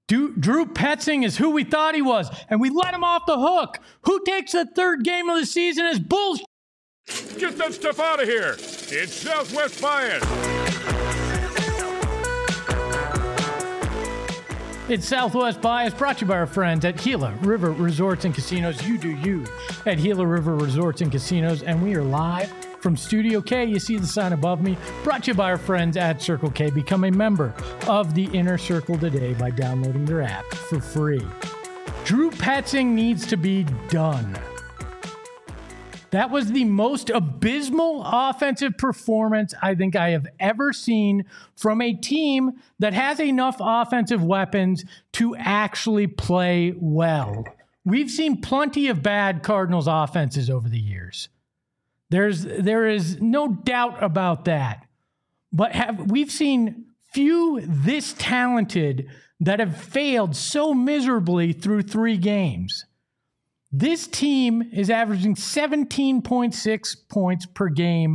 Drew Petzing is who we thought he was, and we let him off the hook. Who takes the third game of the season as bullshit? Get that stuff out of here. It's Southwest Bias. It's Southwest Bias, brought to you by our friends at Gila River Resorts and Casinos. You do you at Gila River Resorts and Casinos, and we are live from Studio K. You see the sign above me. Brought to you by our friends at Circle K. Become a member of the Inner Circle today by downloading their app for free. Drew Petzing needs to be done. That was the most abysmal offensive performance I think I have ever seen from a team that has enough offensive weapons to actually play well. We've seen plenty of bad Cardinals offenses over the years. There is no doubt about that. But we've seen few this talented that have failed so miserably through 3 games. This team is averaging 17.6 points per game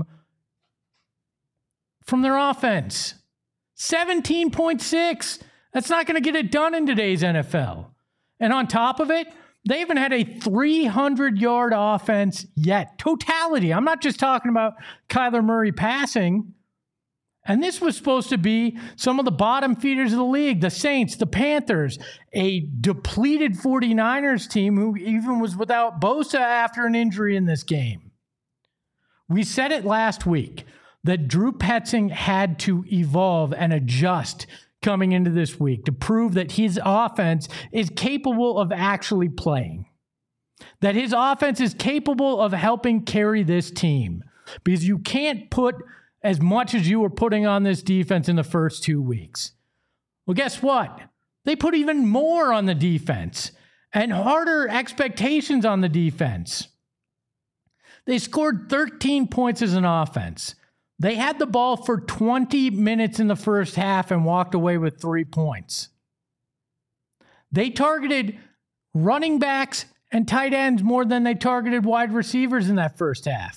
from their offense. 17.6. That's not going to get it done in today's NFL. And on top of it, they haven't had a 300-yard offense yet. Totality. I'm not just talking about Kyler Murray passing. And this was supposed to be some of the bottom feeders of the league, the Saints, the Panthers, a depleted 49ers team who even was without Bosa after an injury in this game. We said it last week that Drew Petzing had to evolve and adjust coming into this week to prove that his offense is capable of actually playing, that his offense is capable of helping carry this team, because you can't put as much as you were putting on this defense in the first 2 weeks. Well, guess what? They put even more on the defense and harder expectations on the defense. They scored 13 points as an offense. They had the ball for 20 minutes in the first half and walked away with 3 points. They targeted running backs and tight ends more than they targeted wide receivers in that first half.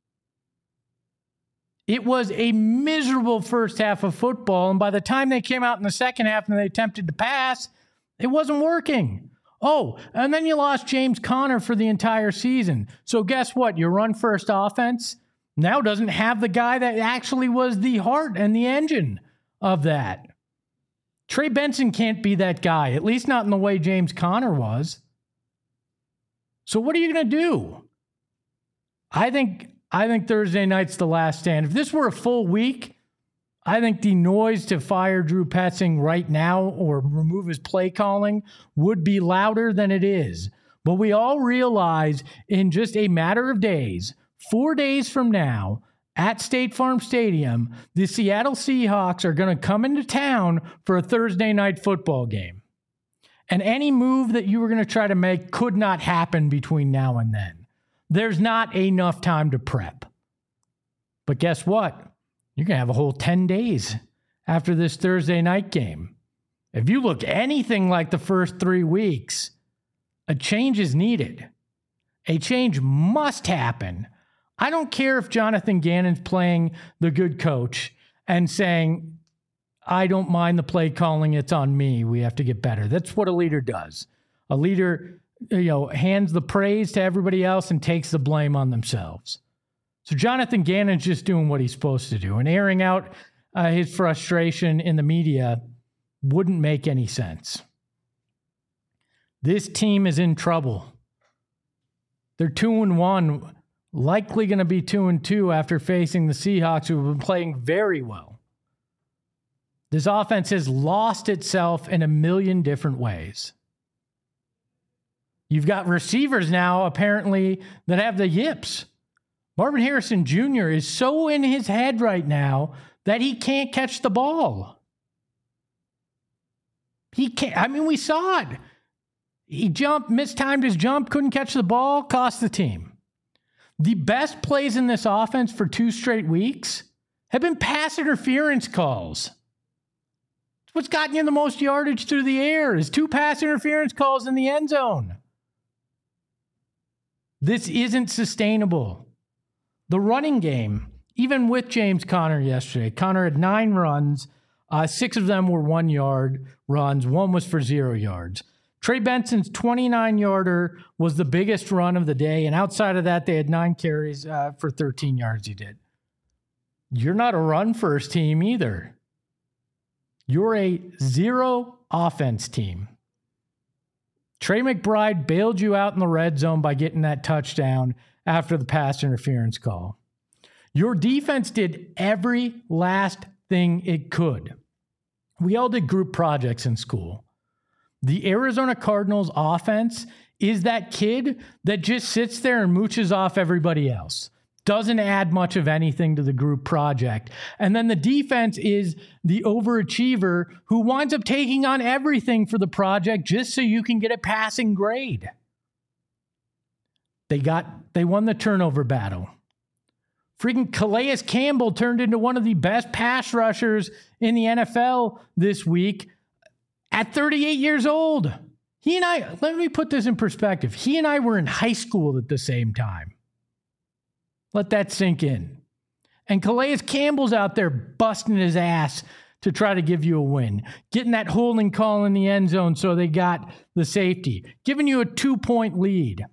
It was a miserable first half of football, and by the time they came out in the second half and they attempted to pass, it wasn't working. Oh, and then you lost James Conner for the entire season. So guess what? Your run-first offense now doesn't have the guy that actually was the heart and the engine of that. Trey Benson can't be that guy, at least not in the way James Conner was. So what are you going to do? I think Thursday night's the last stand. If this were a full week, I think the noise to fire Drew Petzing right now or remove his play calling would be louder than it is. But we all realize in just a matter of days, 4 days from now, at State Farm Stadium, the Seattle Seahawks are going to come into town for a Thursday night football game. And any move that you were going to try to make could not happen between now and then. There's not enough time to prep. But guess what? You're going to have a whole 10 days after this Thursday night game. If you look anything like the first 3 weeks, a change is needed. A change must happen. I don't care if Jonathan Gannon's playing the good coach and saying, I don't mind the play calling, it's on me, we have to get better. That's what a leader does. A leader hands the praise to everybody else and takes the blame on themselves. So Jonathan Gannon's just doing what he's supposed to do, and airing out his frustration in the media wouldn't make any sense. This team is in trouble. They're 2-1, likely going to be 2-2 after facing the Seahawks, who have been playing very well. This offense has lost itself in a million different ways. You've got receivers now, apparently, that have the yips. Marvin Harrison Jr. is so in his head right now that he can't catch the ball. He can't. I mean, we saw it. He mistimed his jump, couldn't catch the ball, cost the team. The best plays in this offense for 2 straight weeks have been pass interference calls. It's what's gotten you the most yardage through the air is 2 pass interference calls in the end zone. This isn't sustainable. The running game, even with James Conner yesterday, Conner had 9 runs, 6 of them were 1-yard runs. 1 was for 0 yards. Trey Benson's 29-yarder was the biggest run of the day, and outside of that, they had 9 carries for 13 yards he did. You're not a run-first team either. You're a 0 offense team. Trey McBride bailed you out in the red zone by getting that touchdown after the pass interference call. Your defense did every last thing it could. We all did group projects in school. The Arizona Cardinals offense is that kid that just sits there and mooches off everybody else. Doesn't add much of anything to the group project. And then the defense is the overachiever who winds up taking on everything for the project just so you can get a passing grade. They won the turnover battle. Freaking Calais Campbell turned into one of the best pass rushers in the NFL this week at 38 years old. Let me put this in perspective. He and I were in high school at the same time. Let that sink in. And Calais Campbell's out there busting his ass to try to give you a win. Getting that holding call in the end zone so they got the safety. Giving you a 2-point lead.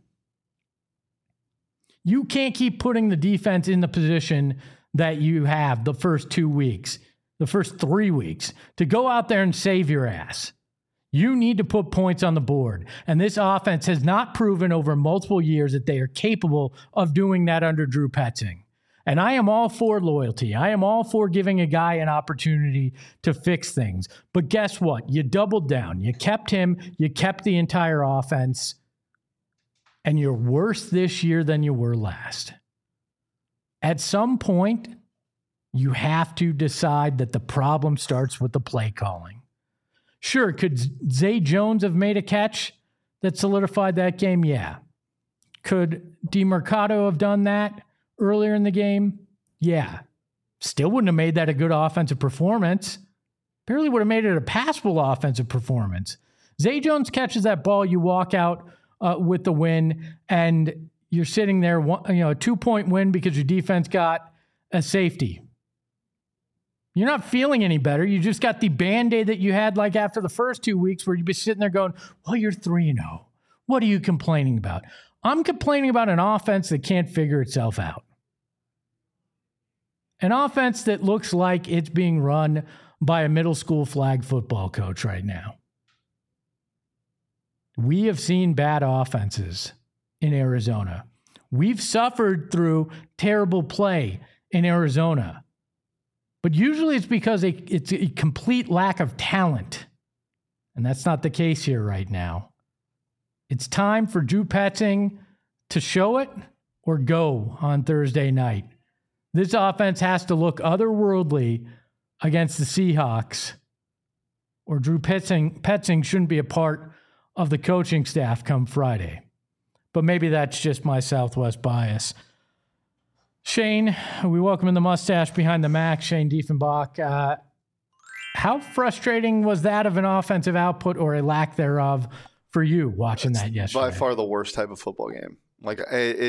You can't keep putting the defense in the position that you have the first 2 weeks, the first 3 weeks, to go out there and save your ass. You need to put points on the board. And this offense has not proven over multiple years that they are capable of doing that under Drew Petzing. And I am all for loyalty. I am all for giving a guy an opportunity to fix things. But guess what? You doubled down. You kept him. You kept the entire offense. And you're worse this year than you were last. At some point, you have to decide that the problem starts with the play calling. Sure, could Zay Jones have made a catch that solidified that game? Yeah. Could DeMarcado have done that earlier in the game? Yeah. Still wouldn't have made that a good offensive performance. Barely would have made it a passable offensive performance. Zay Jones catches that ball, you walk out with the win, and you're sitting there, a 2-point win because your defense got a safety. You're not feeling any better. You just got the Band-Aid that you had like after the first 2 weeks where you'd be sitting there going, well, you're 3-0. What are you complaining about? I'm complaining about an offense that can't figure itself out. An offense that looks like it's being run by a middle school flag football coach right now. We have seen bad offenses in Arizona. We've suffered through terrible play in Arizona. But usually it's because it's a complete lack of talent. And that's not the case here right now. It's time for Drew Petzing to show it or go on Thursday night. This offense has to look otherworldly against the Seahawks, or Drew Petzing shouldn't be a part of the coaching staff come Friday. But maybe that's just my Southwest bias. Shane, we welcome in the mustache behind the Mac, Shane Diefenbach. How frustrating was that of an offensive output or a lack thereof for you watching that yesterday? By far the worst type of football game. Like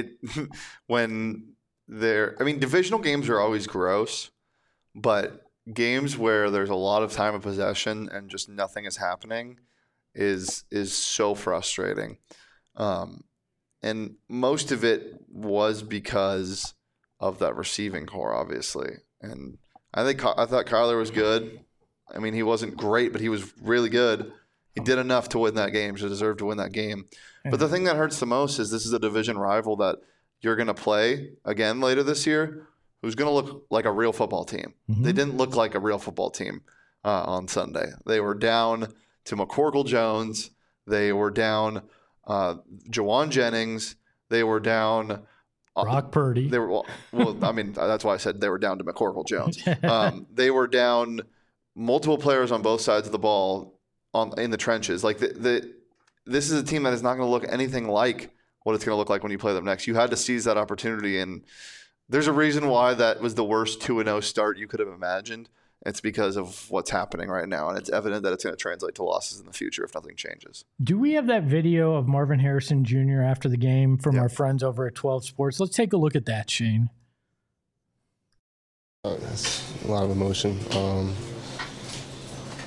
divisional games are always gross, but games where there's a lot of time of possession and just nothing is happening is so frustrating. And most of it was because of that receiving core, obviously. And I thought Kyler was good. I mean, he wasn't great, but he was really good. He did enough to win that game, to deserve to win that game. But the thing that hurts the most is this is a division rival that you're going to play again later this year, who's going to look like a real football team. Mm-hmm. They didn't look like a real football team on Sunday. They were down to McCorkle Jones. They were down Jawan Jennings. They were down Brock Purdy. They were I mean, that's why I said they were down to McCorkle Jones. They were down multiple players on both sides of the ball in the trenches. Like this is a team that is not going to look anything like what it's going to look like when you play them next. You had to seize that opportunity, and there's a reason why that was the worst 2-0 start you could have imagined. It's because of what's happening right now, and it's evident that it's going to translate to losses in the future if nothing changes. Do we have that video of Marvin Harrison Jr. after the game from our friends over at 12 Sports? Let's take a look at that, Shane. That's a lot of emotion.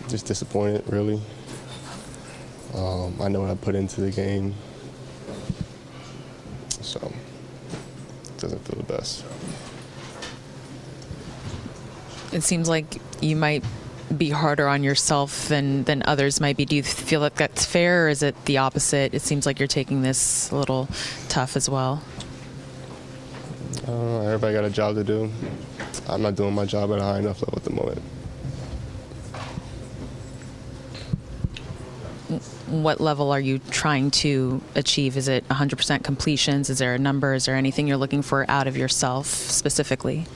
Just disappointed, really. I know what I put into the game, so it doesn't feel the best. It seems like you might be harder on yourself than others might be. Do you feel like that's fair, or is it the opposite? It seems like you're taking this a little tough as well. Everybody got a job to do. I'm not doing my job at a high enough level at the moment. What level are you trying to achieve? Is it 100% completions? Is there a number? Is there anything you're looking for out of yourself specifically?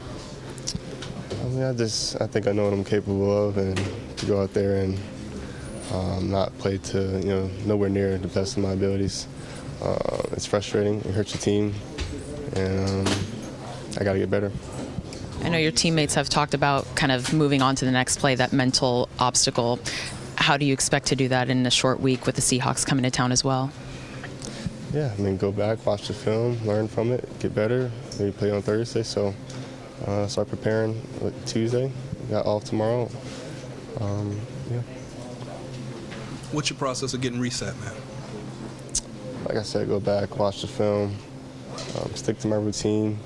I think I know what I'm capable of, and to go out there and not play to nowhere near the best of my abilities. It's frustrating. It hurts your team, and I got to get better. I know your teammates have talked about kind of moving on to the next play, that mental obstacle. How do you expect to do that in a short week with the Seahawks coming to town as well? Yeah, go back, watch the film, learn from it, get better, maybe play on Thursday. So start preparing Tuesday. Got off tomorrow. Yeah. What's your process of getting reset, man? Like I said, go back, watch the film, stick to my routine,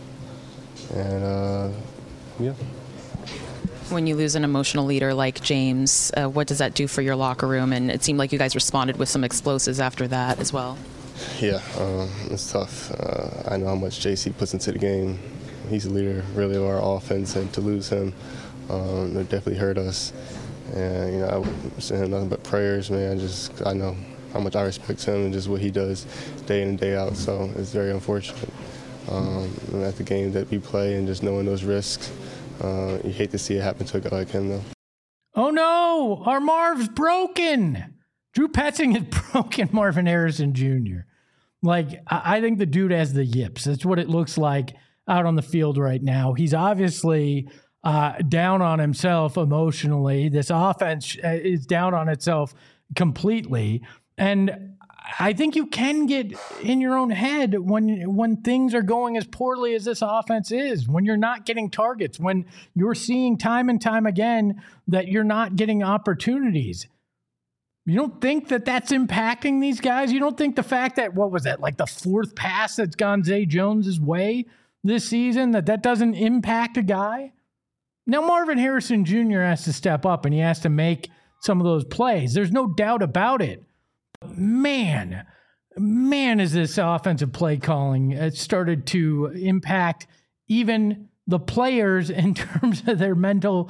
and yeah. When you lose an emotional leader like James, what does that do for your locker room? And it seemed like you guys responded with some explosives after that as well. Yeah, it's tough. I know how much JC puts into the game. He's the leader, really, of our offense, and to lose him, it definitely hurt us. And I send him nothing but prayers, man. I know how much I respect him and just what he does day in and day out. So it's very unfortunate. And at the game that we play and just knowing those risks, you hate to see it happen to a guy like him, though. Oh no, our Marv's broken. Drew Petzing has broken Marvin Harrison Jr. I think the dude has the yips. That's what it looks like out on the field right now. He's obviously down on himself emotionally. This offense is down on itself completely. And I think you can get in your own head when things are going as poorly as this offense is, when you're not getting targets, when you're seeing time and time again that you're not getting opportunities. You don't think that that's impacting these guys? You don't think the fact that, the fourth pass that's gone Zay Jones's way this season, that doesn't impact a guy? Now, Marvin Harrison Jr. has to step up and he has to make some of those plays. There's no doubt about it. Man, is this offensive play calling started to impact even the players in terms of their mentals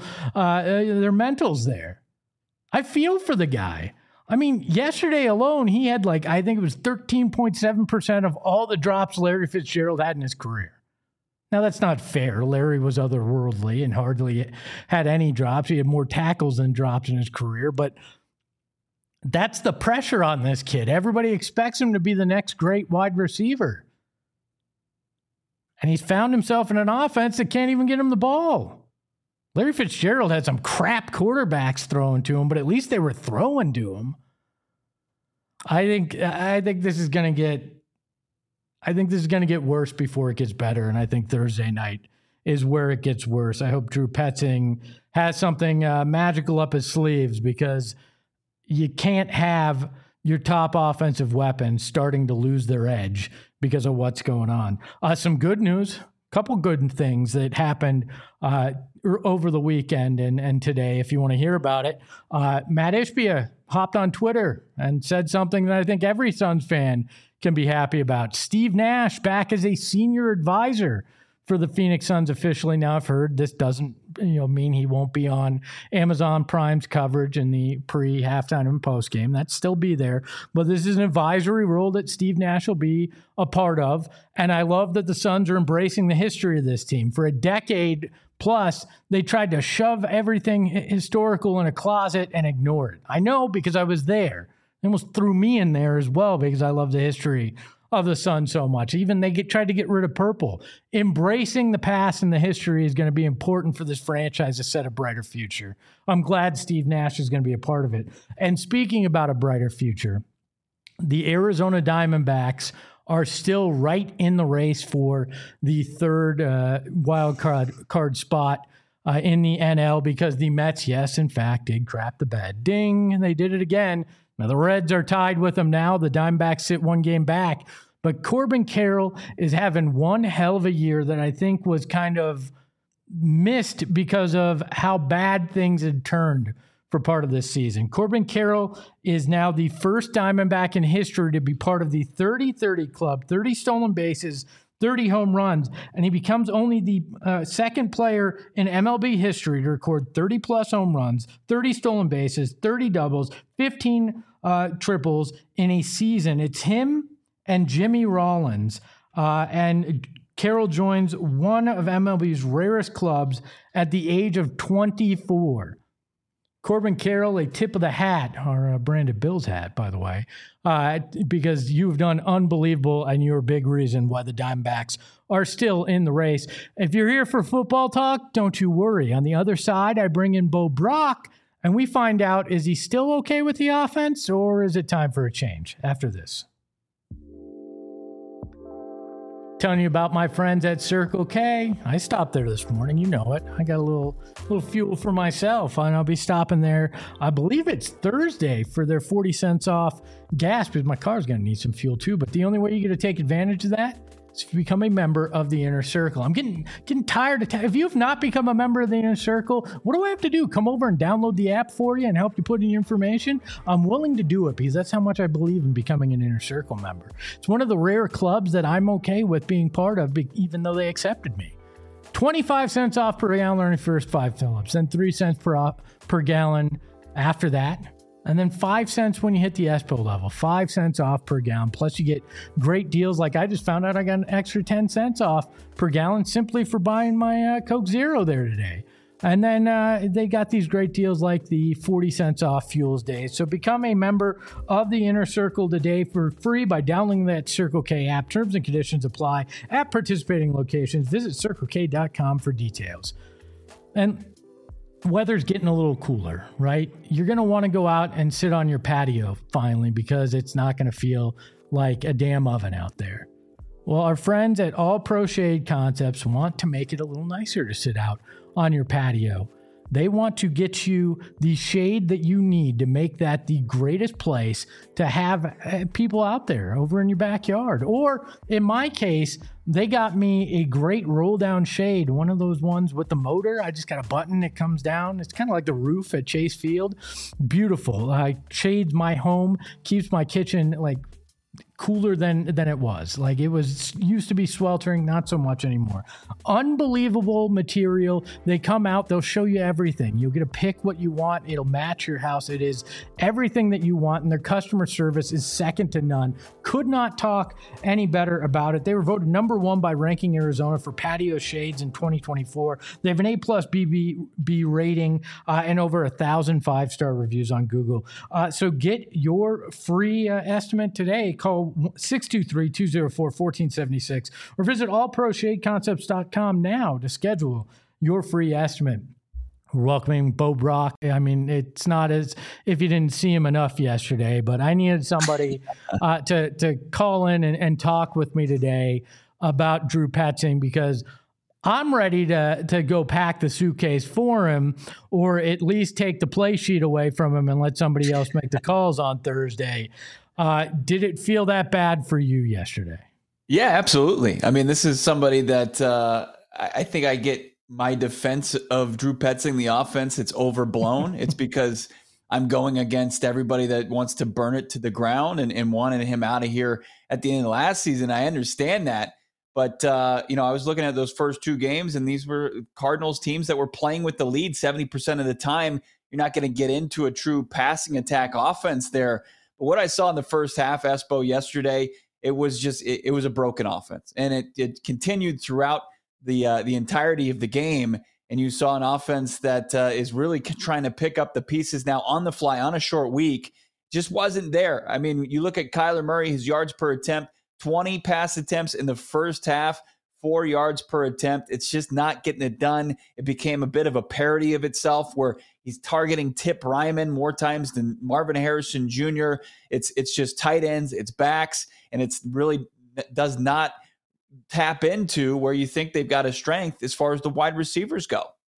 there. I feel for the guy. I mean, yesterday alone, he had I think it was 13.7% of all the drops Larry Fitzgerald had in his career. Now, that's not fair. Larry was otherworldly and hardly had any drops. He had more tackles than drops in his career, but that's the pressure on this kid. Everybody expects him to be the next great wide receiver. And he's found himself in an offense that can't even get him the ball. Larry Fitzgerald had some crap quarterbacks thrown to him, but at least they were throwing to him. I think this is going to get worse before it gets better, and I think Thursday night is where it gets worse. I hope Drew Petzing has something magical up his sleeves, because you can't have your top offensive weapons starting to lose their edge because of what's going on. Some good news, a couple good things that happened over the weekend and today, if you want to hear about it. Matt Ishbia hopped on Twitter and said something that I think every Suns fan can be happy about. Steve Nash back as a senior advisor for the Phoenix Suns officially. Now, I've heard this doesn't mean he won't be on Amazon Prime's coverage in the pre-halftime and post-game. That'd still be there. But this is an advisory role that Steve Nash will be a part of. And I love that the Suns are embracing the history of this team. For a decade plus, they tried to shove everything historical in a closet and ignore it. I know, because I was there. They almost threw me in there as well, because I love the history of the Suns so much. Even they tried to get rid of purple. Embracing the past and the history is going to be important for this franchise to set a brighter future. I'm glad Steve Nash is going to be a part of it. And speaking about a brighter future, the Arizona Diamondbacks are still right in the race for the third wild card spot in the NL because the Mets, yes, in fact, did crap the bed. Ding, they did it again. Now the Reds are tied with them now. The Diamondbacks sit one game back. But Corbin Carroll is having one hell of a year that I think was kind of missed because of how bad things had turned for part of this season. Corbin Carroll is now the first Diamondback in history to be part of the 30-30 club, 30 stolen bases, 30 home runs, and he becomes only the second player in MLB history to record 30-plus home runs, 30 stolen bases, 30 doubles, 15 triples in a season. It's him and Jimmy Rollins, and Carroll joins one of MLB's rarest clubs at the age of 24. Corbin Carroll, a tip of the hat, or a Brandon Bills hat, by the way, because you've done unbelievable and you're a big reason why the Diamondbacks are still in the race. If you're here for football talk, don't you worry. On the other side, I bring in Bo Brock, and we find out, is he still okay with the offense, or is it time for a change after this? Telling you about my friends at Circle K. I stopped there this morning. You know it. I got a little fuel for myself, and I'll be stopping there. I believe it's Thursday for their 40 cents off gas because my car's going to need some fuel too. But the only way you're going to take advantage of that is if you become a member of the Inner Circle. I'm getting tired of if you have not become a member of the Inner Circle, what do I have to do? Come over and download the app for you and help you put in your information? I'm willing to do it because that's how much I believe in becoming an Inner Circle member. It's one of the rare clubs that I'm okay with being part of, even though they accepted me. 25 cents off per gallon on your first 5 fill-ups, then 3 cents per gallon after that. And then 5 cents when you hit the ESPO level, 5 cents off per gallon. Plus you get great deals. Like I just found out I got an extra 10 cents off per gallon simply for buying my Coke Zero there today. And then they got these great deals like the 40 cents off Fuels Day. So become a member of the Inner Circle today for free by downloading that Circle K app. Terms and conditions apply at participating locations. Visit CircleK.com for details. And weather's getting a little cooler, right? You're going to want to go out and sit on your patio finally because it's not going to feel like a damn oven out there. Well, our friends at All Pro Shade Concepts want to make it a little nicer to sit out on your patio. They want to get you the shade that you need to make that the greatest place to have people out there over in your backyard. Or in my case, they got me a great roll down shade, one of those ones with the motor. I just got a button that comes down. It's kind of like the roof at Chase Field. Beautiful. Shades my home, keeps my kitchen like cooler than it was. Like it was used to be sweltering, not so much anymore. Unbelievable material. They come out, they'll show you everything. You'll get to pick what you want. It'll match your house. It is everything that you want, and their customer service is second to none. Could not talk any better about it. They were voted number one by Ranking Arizona for patio shades in 2024. They have an A+ BBB rating and over 1,000 5-star reviews on Google. So get your free estimate today. Call 623-204-1476 or visit allproshadeconcepts.com now to schedule your free estimate. We're welcoming Bo Brock. I mean, it's not as if you didn't see him enough yesterday, but I needed somebody to call in and talk with me today about Drew Petzing because I'm ready to go pack the suitcase for him or at least take the play sheet away from him and let somebody else make the calls on Thursday. Did it feel that bad for you yesterday? Yeah, absolutely. I mean, this is somebody that I think I get my defense of Drew Petzing, the offense. It's overblown. It's because I'm going against everybody that wants to burn it to the ground and wanted him out of here at the end of last season. I understand that. But, I was looking at those first 2 games, and these were Cardinals teams that were playing with the lead 70% of the time. You're not going to get into a true passing attack offense there. But what I saw in the first half, Espo, yesterday, it was just it was a broken offense. And it continued throughout the entirety of the game. And you saw an offense that is really trying to pick up the pieces now on the fly on a short week. Just wasn't there. I mean, you look at Kyler Murray, his yards per attempt, 20 pass attempts in the first half, 4 yards per attempt. It's just not getting it done. It became a bit of a parody of itself where he's targeting Tip Ryman more times than Marvin Harrison Jr. It's just tight ends, it's backs, and it's really does not tap into where you think they've got a strength as far as the wide receivers go.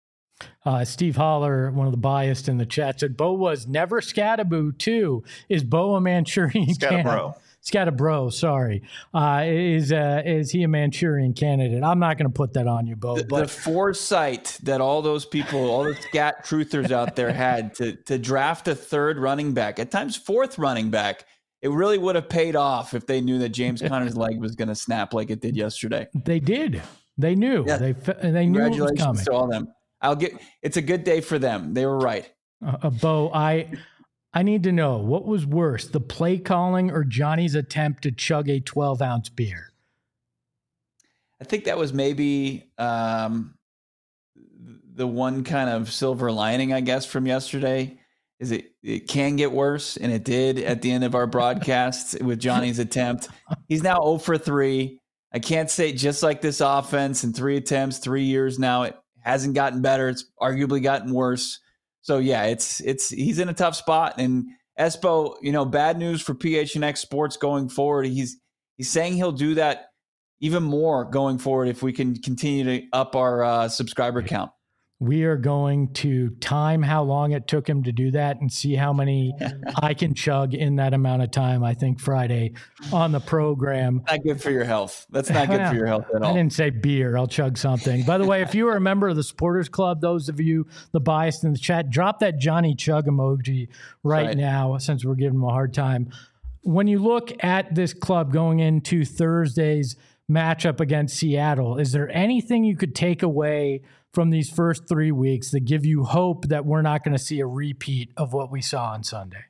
Steve Holler, one of the biased in the chat, said Bo was never Scattaboo too. Is Bo a Manchurian Scattabro. Scattabro, sorry. Is he a Manchurian candidate? I'm not going to put that on you, Bo. The foresight that all those people, all the scat truthers out there had to draft a third running back, at times fourth running back, it really would have paid off if they knew that James Conner's leg was going to snap like it did yesterday. They did. They knew. Yeah. They knew it was coming. Congratulations to all them. It's a good day for them. They were right. Bo, I need to know, what was worse, the play calling or Johnny's attempt to chug a 12-ounce beer? I think that was maybe the one kind of silver lining, I guess, from yesterday. Is it can get worse, and it did at the end of our broadcast with Johnny's attempt. He's now 0 for 3. I can't say, just like this offense in 3 attempts, 3 years now, it hasn't gotten better. It's arguably gotten worse. So yeah, he's in a tough spot. And Espo, bad news for PHNX Sports going forward. He's saying he'll do that even more going forward if we can continue to up our subscriber count. We are going to time how long it took him to do that and see how many I can chug in that amount of time, I think, Friday on the program. Not good for your health. That's not good for your health at all. I didn't say beer. I'll chug something. By the way, if you are a member of the Supporters Club, those of you, the biased in the chat, drop that Johnny Chug emoji right now, since we're giving him a hard time. When you look at this club going into Thursday's matchup against Seattle, is there anything you could take away from these first 3 weeks that give you hope that we're not going to see a repeat of what we saw on Sunday?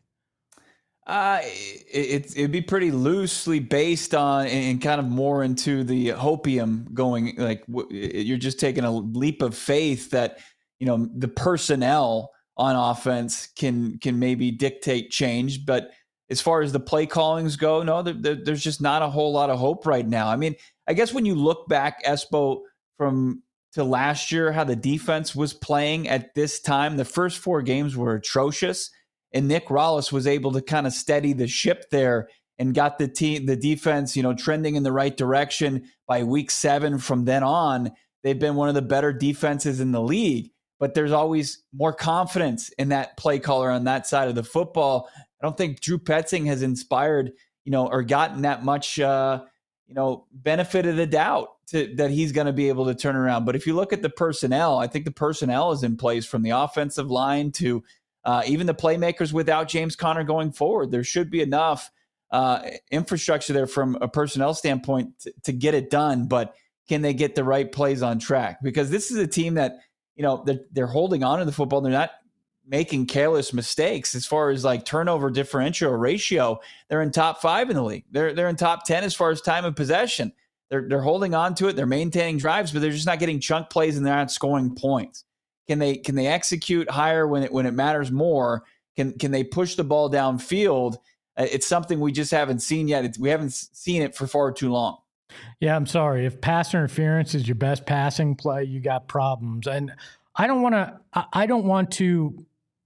It'd be pretty loosely based on and kind of more into the hopium going, like you're just taking a leap of faith that, the personnel on offense can maybe dictate change. But as far as the play callings go, no, there's just not a whole lot of hope right now. I mean, I guess when you look back, Espo, to last year, how the defense was playing at this time, the first 4 games were atrocious, and Nick Rallis was able to kind of steady the ship there and got the defense, trending in the right direction by week 7. From then on, they've been one of the better defenses in the league, but there's always more confidence in that play caller on that side of the football. I don't think Drew Petzing has inspired, or gotten that much, benefit of the doubt that he's going to be able to turn around. But if you look at the personnel, I think the personnel is in place from the offensive line to even the playmakers without James Conner going forward. There should be enough infrastructure there from a personnel standpoint to get it done. But can they get the right plays on track? Because this is a team that, they're holding on to the football. They're not making careless mistakes as far as like turnover differential ratio. They're in top 5 in the league. They're in top 10 as far as time of possession. They're holding on to it. They're maintaining drives, but they're just not getting chunk plays and they're not scoring points. Can they execute higher when it matters more? Can they push the ball downfield? It's something we just haven't seen yet. We haven't seen it for far too long. Yeah, I'm sorry. If pass interference is your best passing play, you got problems. And I don't want to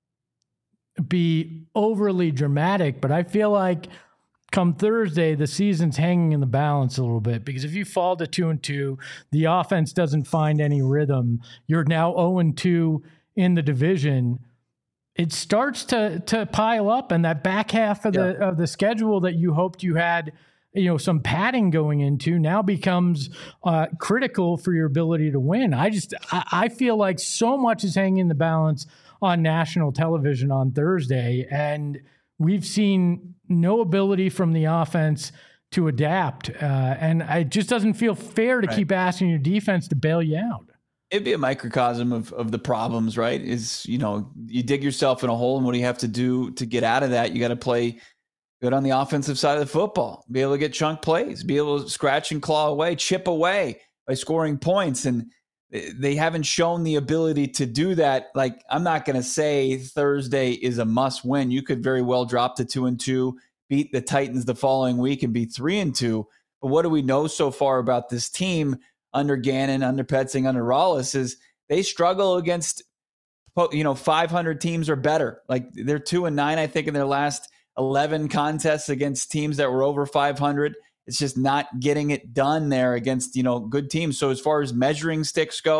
be overly dramatic, but I feel like come Thursday, the season's hanging in the balance a little bit, because if you fall to 2-2, the offense doesn't find any rhythm. You're now 0-2 in the division. It starts to pile up, and that back half of the schedule that you hoped you had, some padding going into now becomes critical for your ability to win. I feel like so much is hanging in the balance on national television on Thursday, and we've seen no ability from the offense to adapt. And it just doesn't feel fair to keep asking your defense to bail you out. It'd be a microcosm of the problems, right? Is, you dig yourself in a hole, and what do you have to do to get out of that? You got to play good on the offensive side of the football, be able to get chunk plays, be able to scratch and claw away, chip away by scoring points. And they haven't shown the ability to do that. Like, I'm not going to say Thursday is a must win. You could very well drop to 2-2, beat the Titans the following week and be 3-2. But what do we know so far about this team under Gannon, under Petzing, under Rallis is they struggle against, 500 teams or better. Like, they're 2-9, I think, in their last 11 contests against teams that were over 500. It's just not getting it done there against, good teams. So as far as measuring sticks go,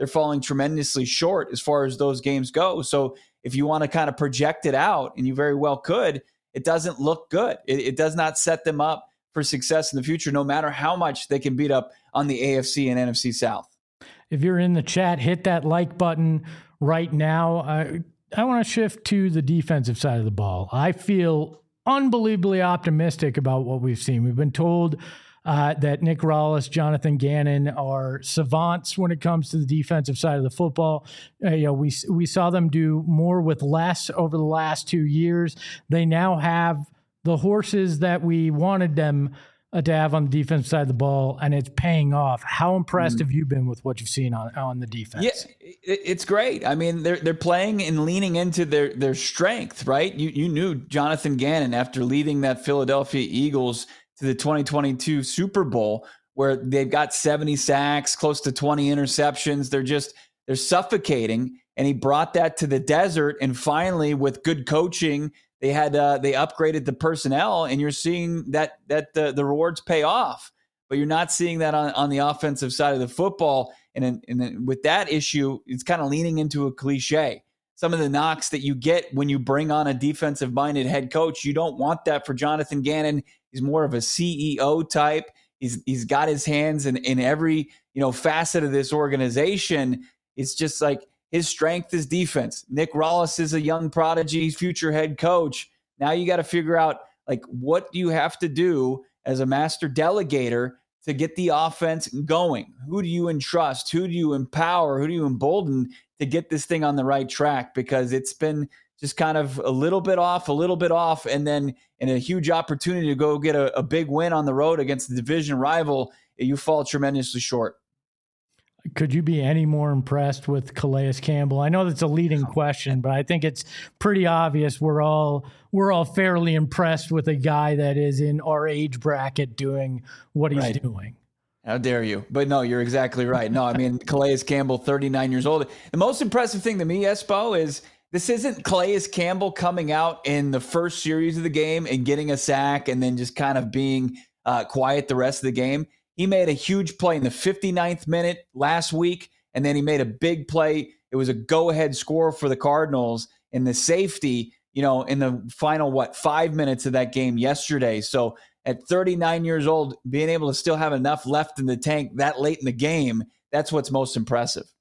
they're falling tremendously short as far as those games go. So if you want to kind of project it out, and you very well could, it doesn't look good. It does not set them up for success in the future, no matter how much they can beat up on the AFC and NFC South. If you're in the chat, hit that like button right now. I want to shift to the defensive side of the ball. I feel unbelievably optimistic about what we've seen. We've been told that Nick Rallis, Jonathan Gannon are savants when it comes to the defensive side of the football. We saw them do more with less over the last 2 years. They now have the horses that we wanted them to have on the defensive side of the ball, and it's paying off. How impressed have you been with what you've seen on the defense? Yeah, it's great. I mean, they're playing and leaning into their strength, right? You knew Jonathan Gannon after leading that Philadelphia Eagles to the 2022 Super Bowl, where they've got 70 sacks, close to 20 interceptions. They're suffocating, and he brought that to the desert. And finally, with good coaching, they upgraded the personnel, and you're seeing that the rewards pay off. But you're not seeing that on the offensive side of the football. And then with that issue, it's kind of leaning into a cliche. Some of the knocks that you get when you bring on a defensive-minded head coach, you don't want that for Jonathan Gannon. He's more of a CEO type. He's got his hands in every facet of this organization. It's just like his strength is defense. Nick Rallis is a young prodigy, future head coach. Now you got to figure out what do you have to do as a master delegator to get the offense going. Who do you entrust? Who do you empower? Who do you embolden to get this thing on the right track? Because it's been just kind of a little bit off, and then in a huge opportunity to go get a big win on the road against the division rival, you fall tremendously short. Could you be any more impressed with Calais Campbell? I know that's a leading question, but I think it's pretty obvious we're all fairly impressed with a guy that is in our age bracket doing what he's doing. How dare you? But no, you're exactly right. No, I mean, Calais Campbell, 39 years old. The most impressive thing to me, Espo, is this isn't Calais Campbell coming out in the first series of the game and getting a sack and then just kind of being quiet the rest of the game. He made a huge play in the 59th minute last week, and then he made a big play. It was a go-ahead score for the Cardinals in the safety, in the final, 5 minutes of that game yesterday. So at 39 years old, being able to still have enough left in the tank that late in the game, that's what's most impressive.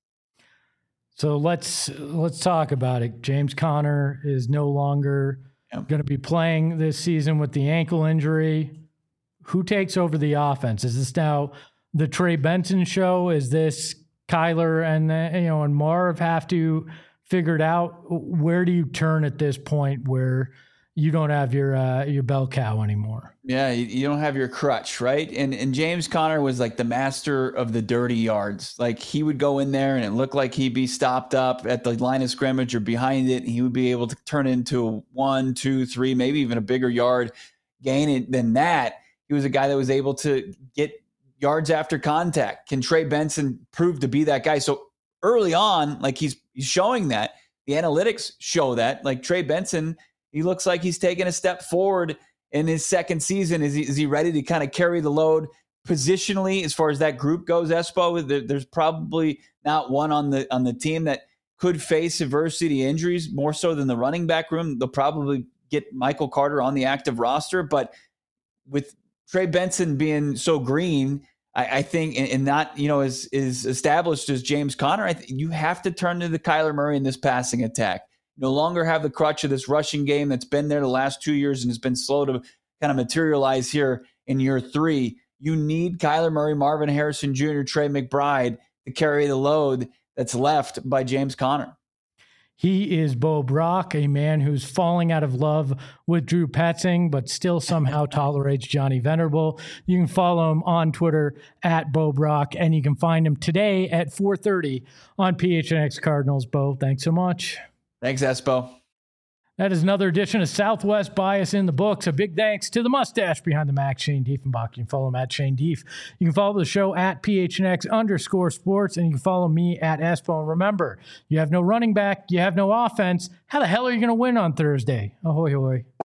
So let's talk about it. James Conner is no longer going to be playing this season with the ankle injury. Who takes over the offense? Is this now the Trey Benson show? Is this Kyler and Marv have to figure it out? Where do you turn at this point where you don't have your bell cow anymore? Yeah, you don't have your crutch, right? And James Conner was like the master of the dirty yards. Like he would go in there and it looked like he'd be stopped up at the line of scrimmage or behind it, and he would be able to turn it into 1, 2, 3, maybe even a bigger yard gain than that. He was a guy that was able to get yards after contact. Can Trey Benson prove to be that guy? So early on, he's showing that. The analytics show that. Like Trey Benson, he looks like he's taking a step forward in his second season. Is he ready to kind of carry the load positionally as far as that group goes, Espo? There's probably not one on the team that could face adversity injuries more so than the running back room. They'll probably get Michael Carter on the active roster, but with Trey Benson being so green, I think, and not is established as James Conner, I think you have to turn to the Kyler Murray in this passing attack. No longer have the crutch of this rushing game that's been there the last 2 years and has been slow to kind of materialize here in year 3. You need Kyler Murray, Marvin Harrison Jr., Trey McBride to carry the load that's left by James Conner. He is Bo Brock, a man who's falling out of love with Drew Petzing, but still somehow tolerates Johnny Venerable. You can follow him on Twitter at Bo Brock, and you can find him today at 4:30 on PHNX Cardinals. Bo, thanks so much. Thanks, Espo. That is another edition of Southwest Bias in the books. A big thanks to the mustache behind the Mac, Shane Diefenbach. You can follow him at Shane Dief. You can follow the show at PHNX_sports, and you can follow me at Espo. And remember, you have no running back, you have no offense. How the hell are you going to win on Thursday? Ahoy, hoy.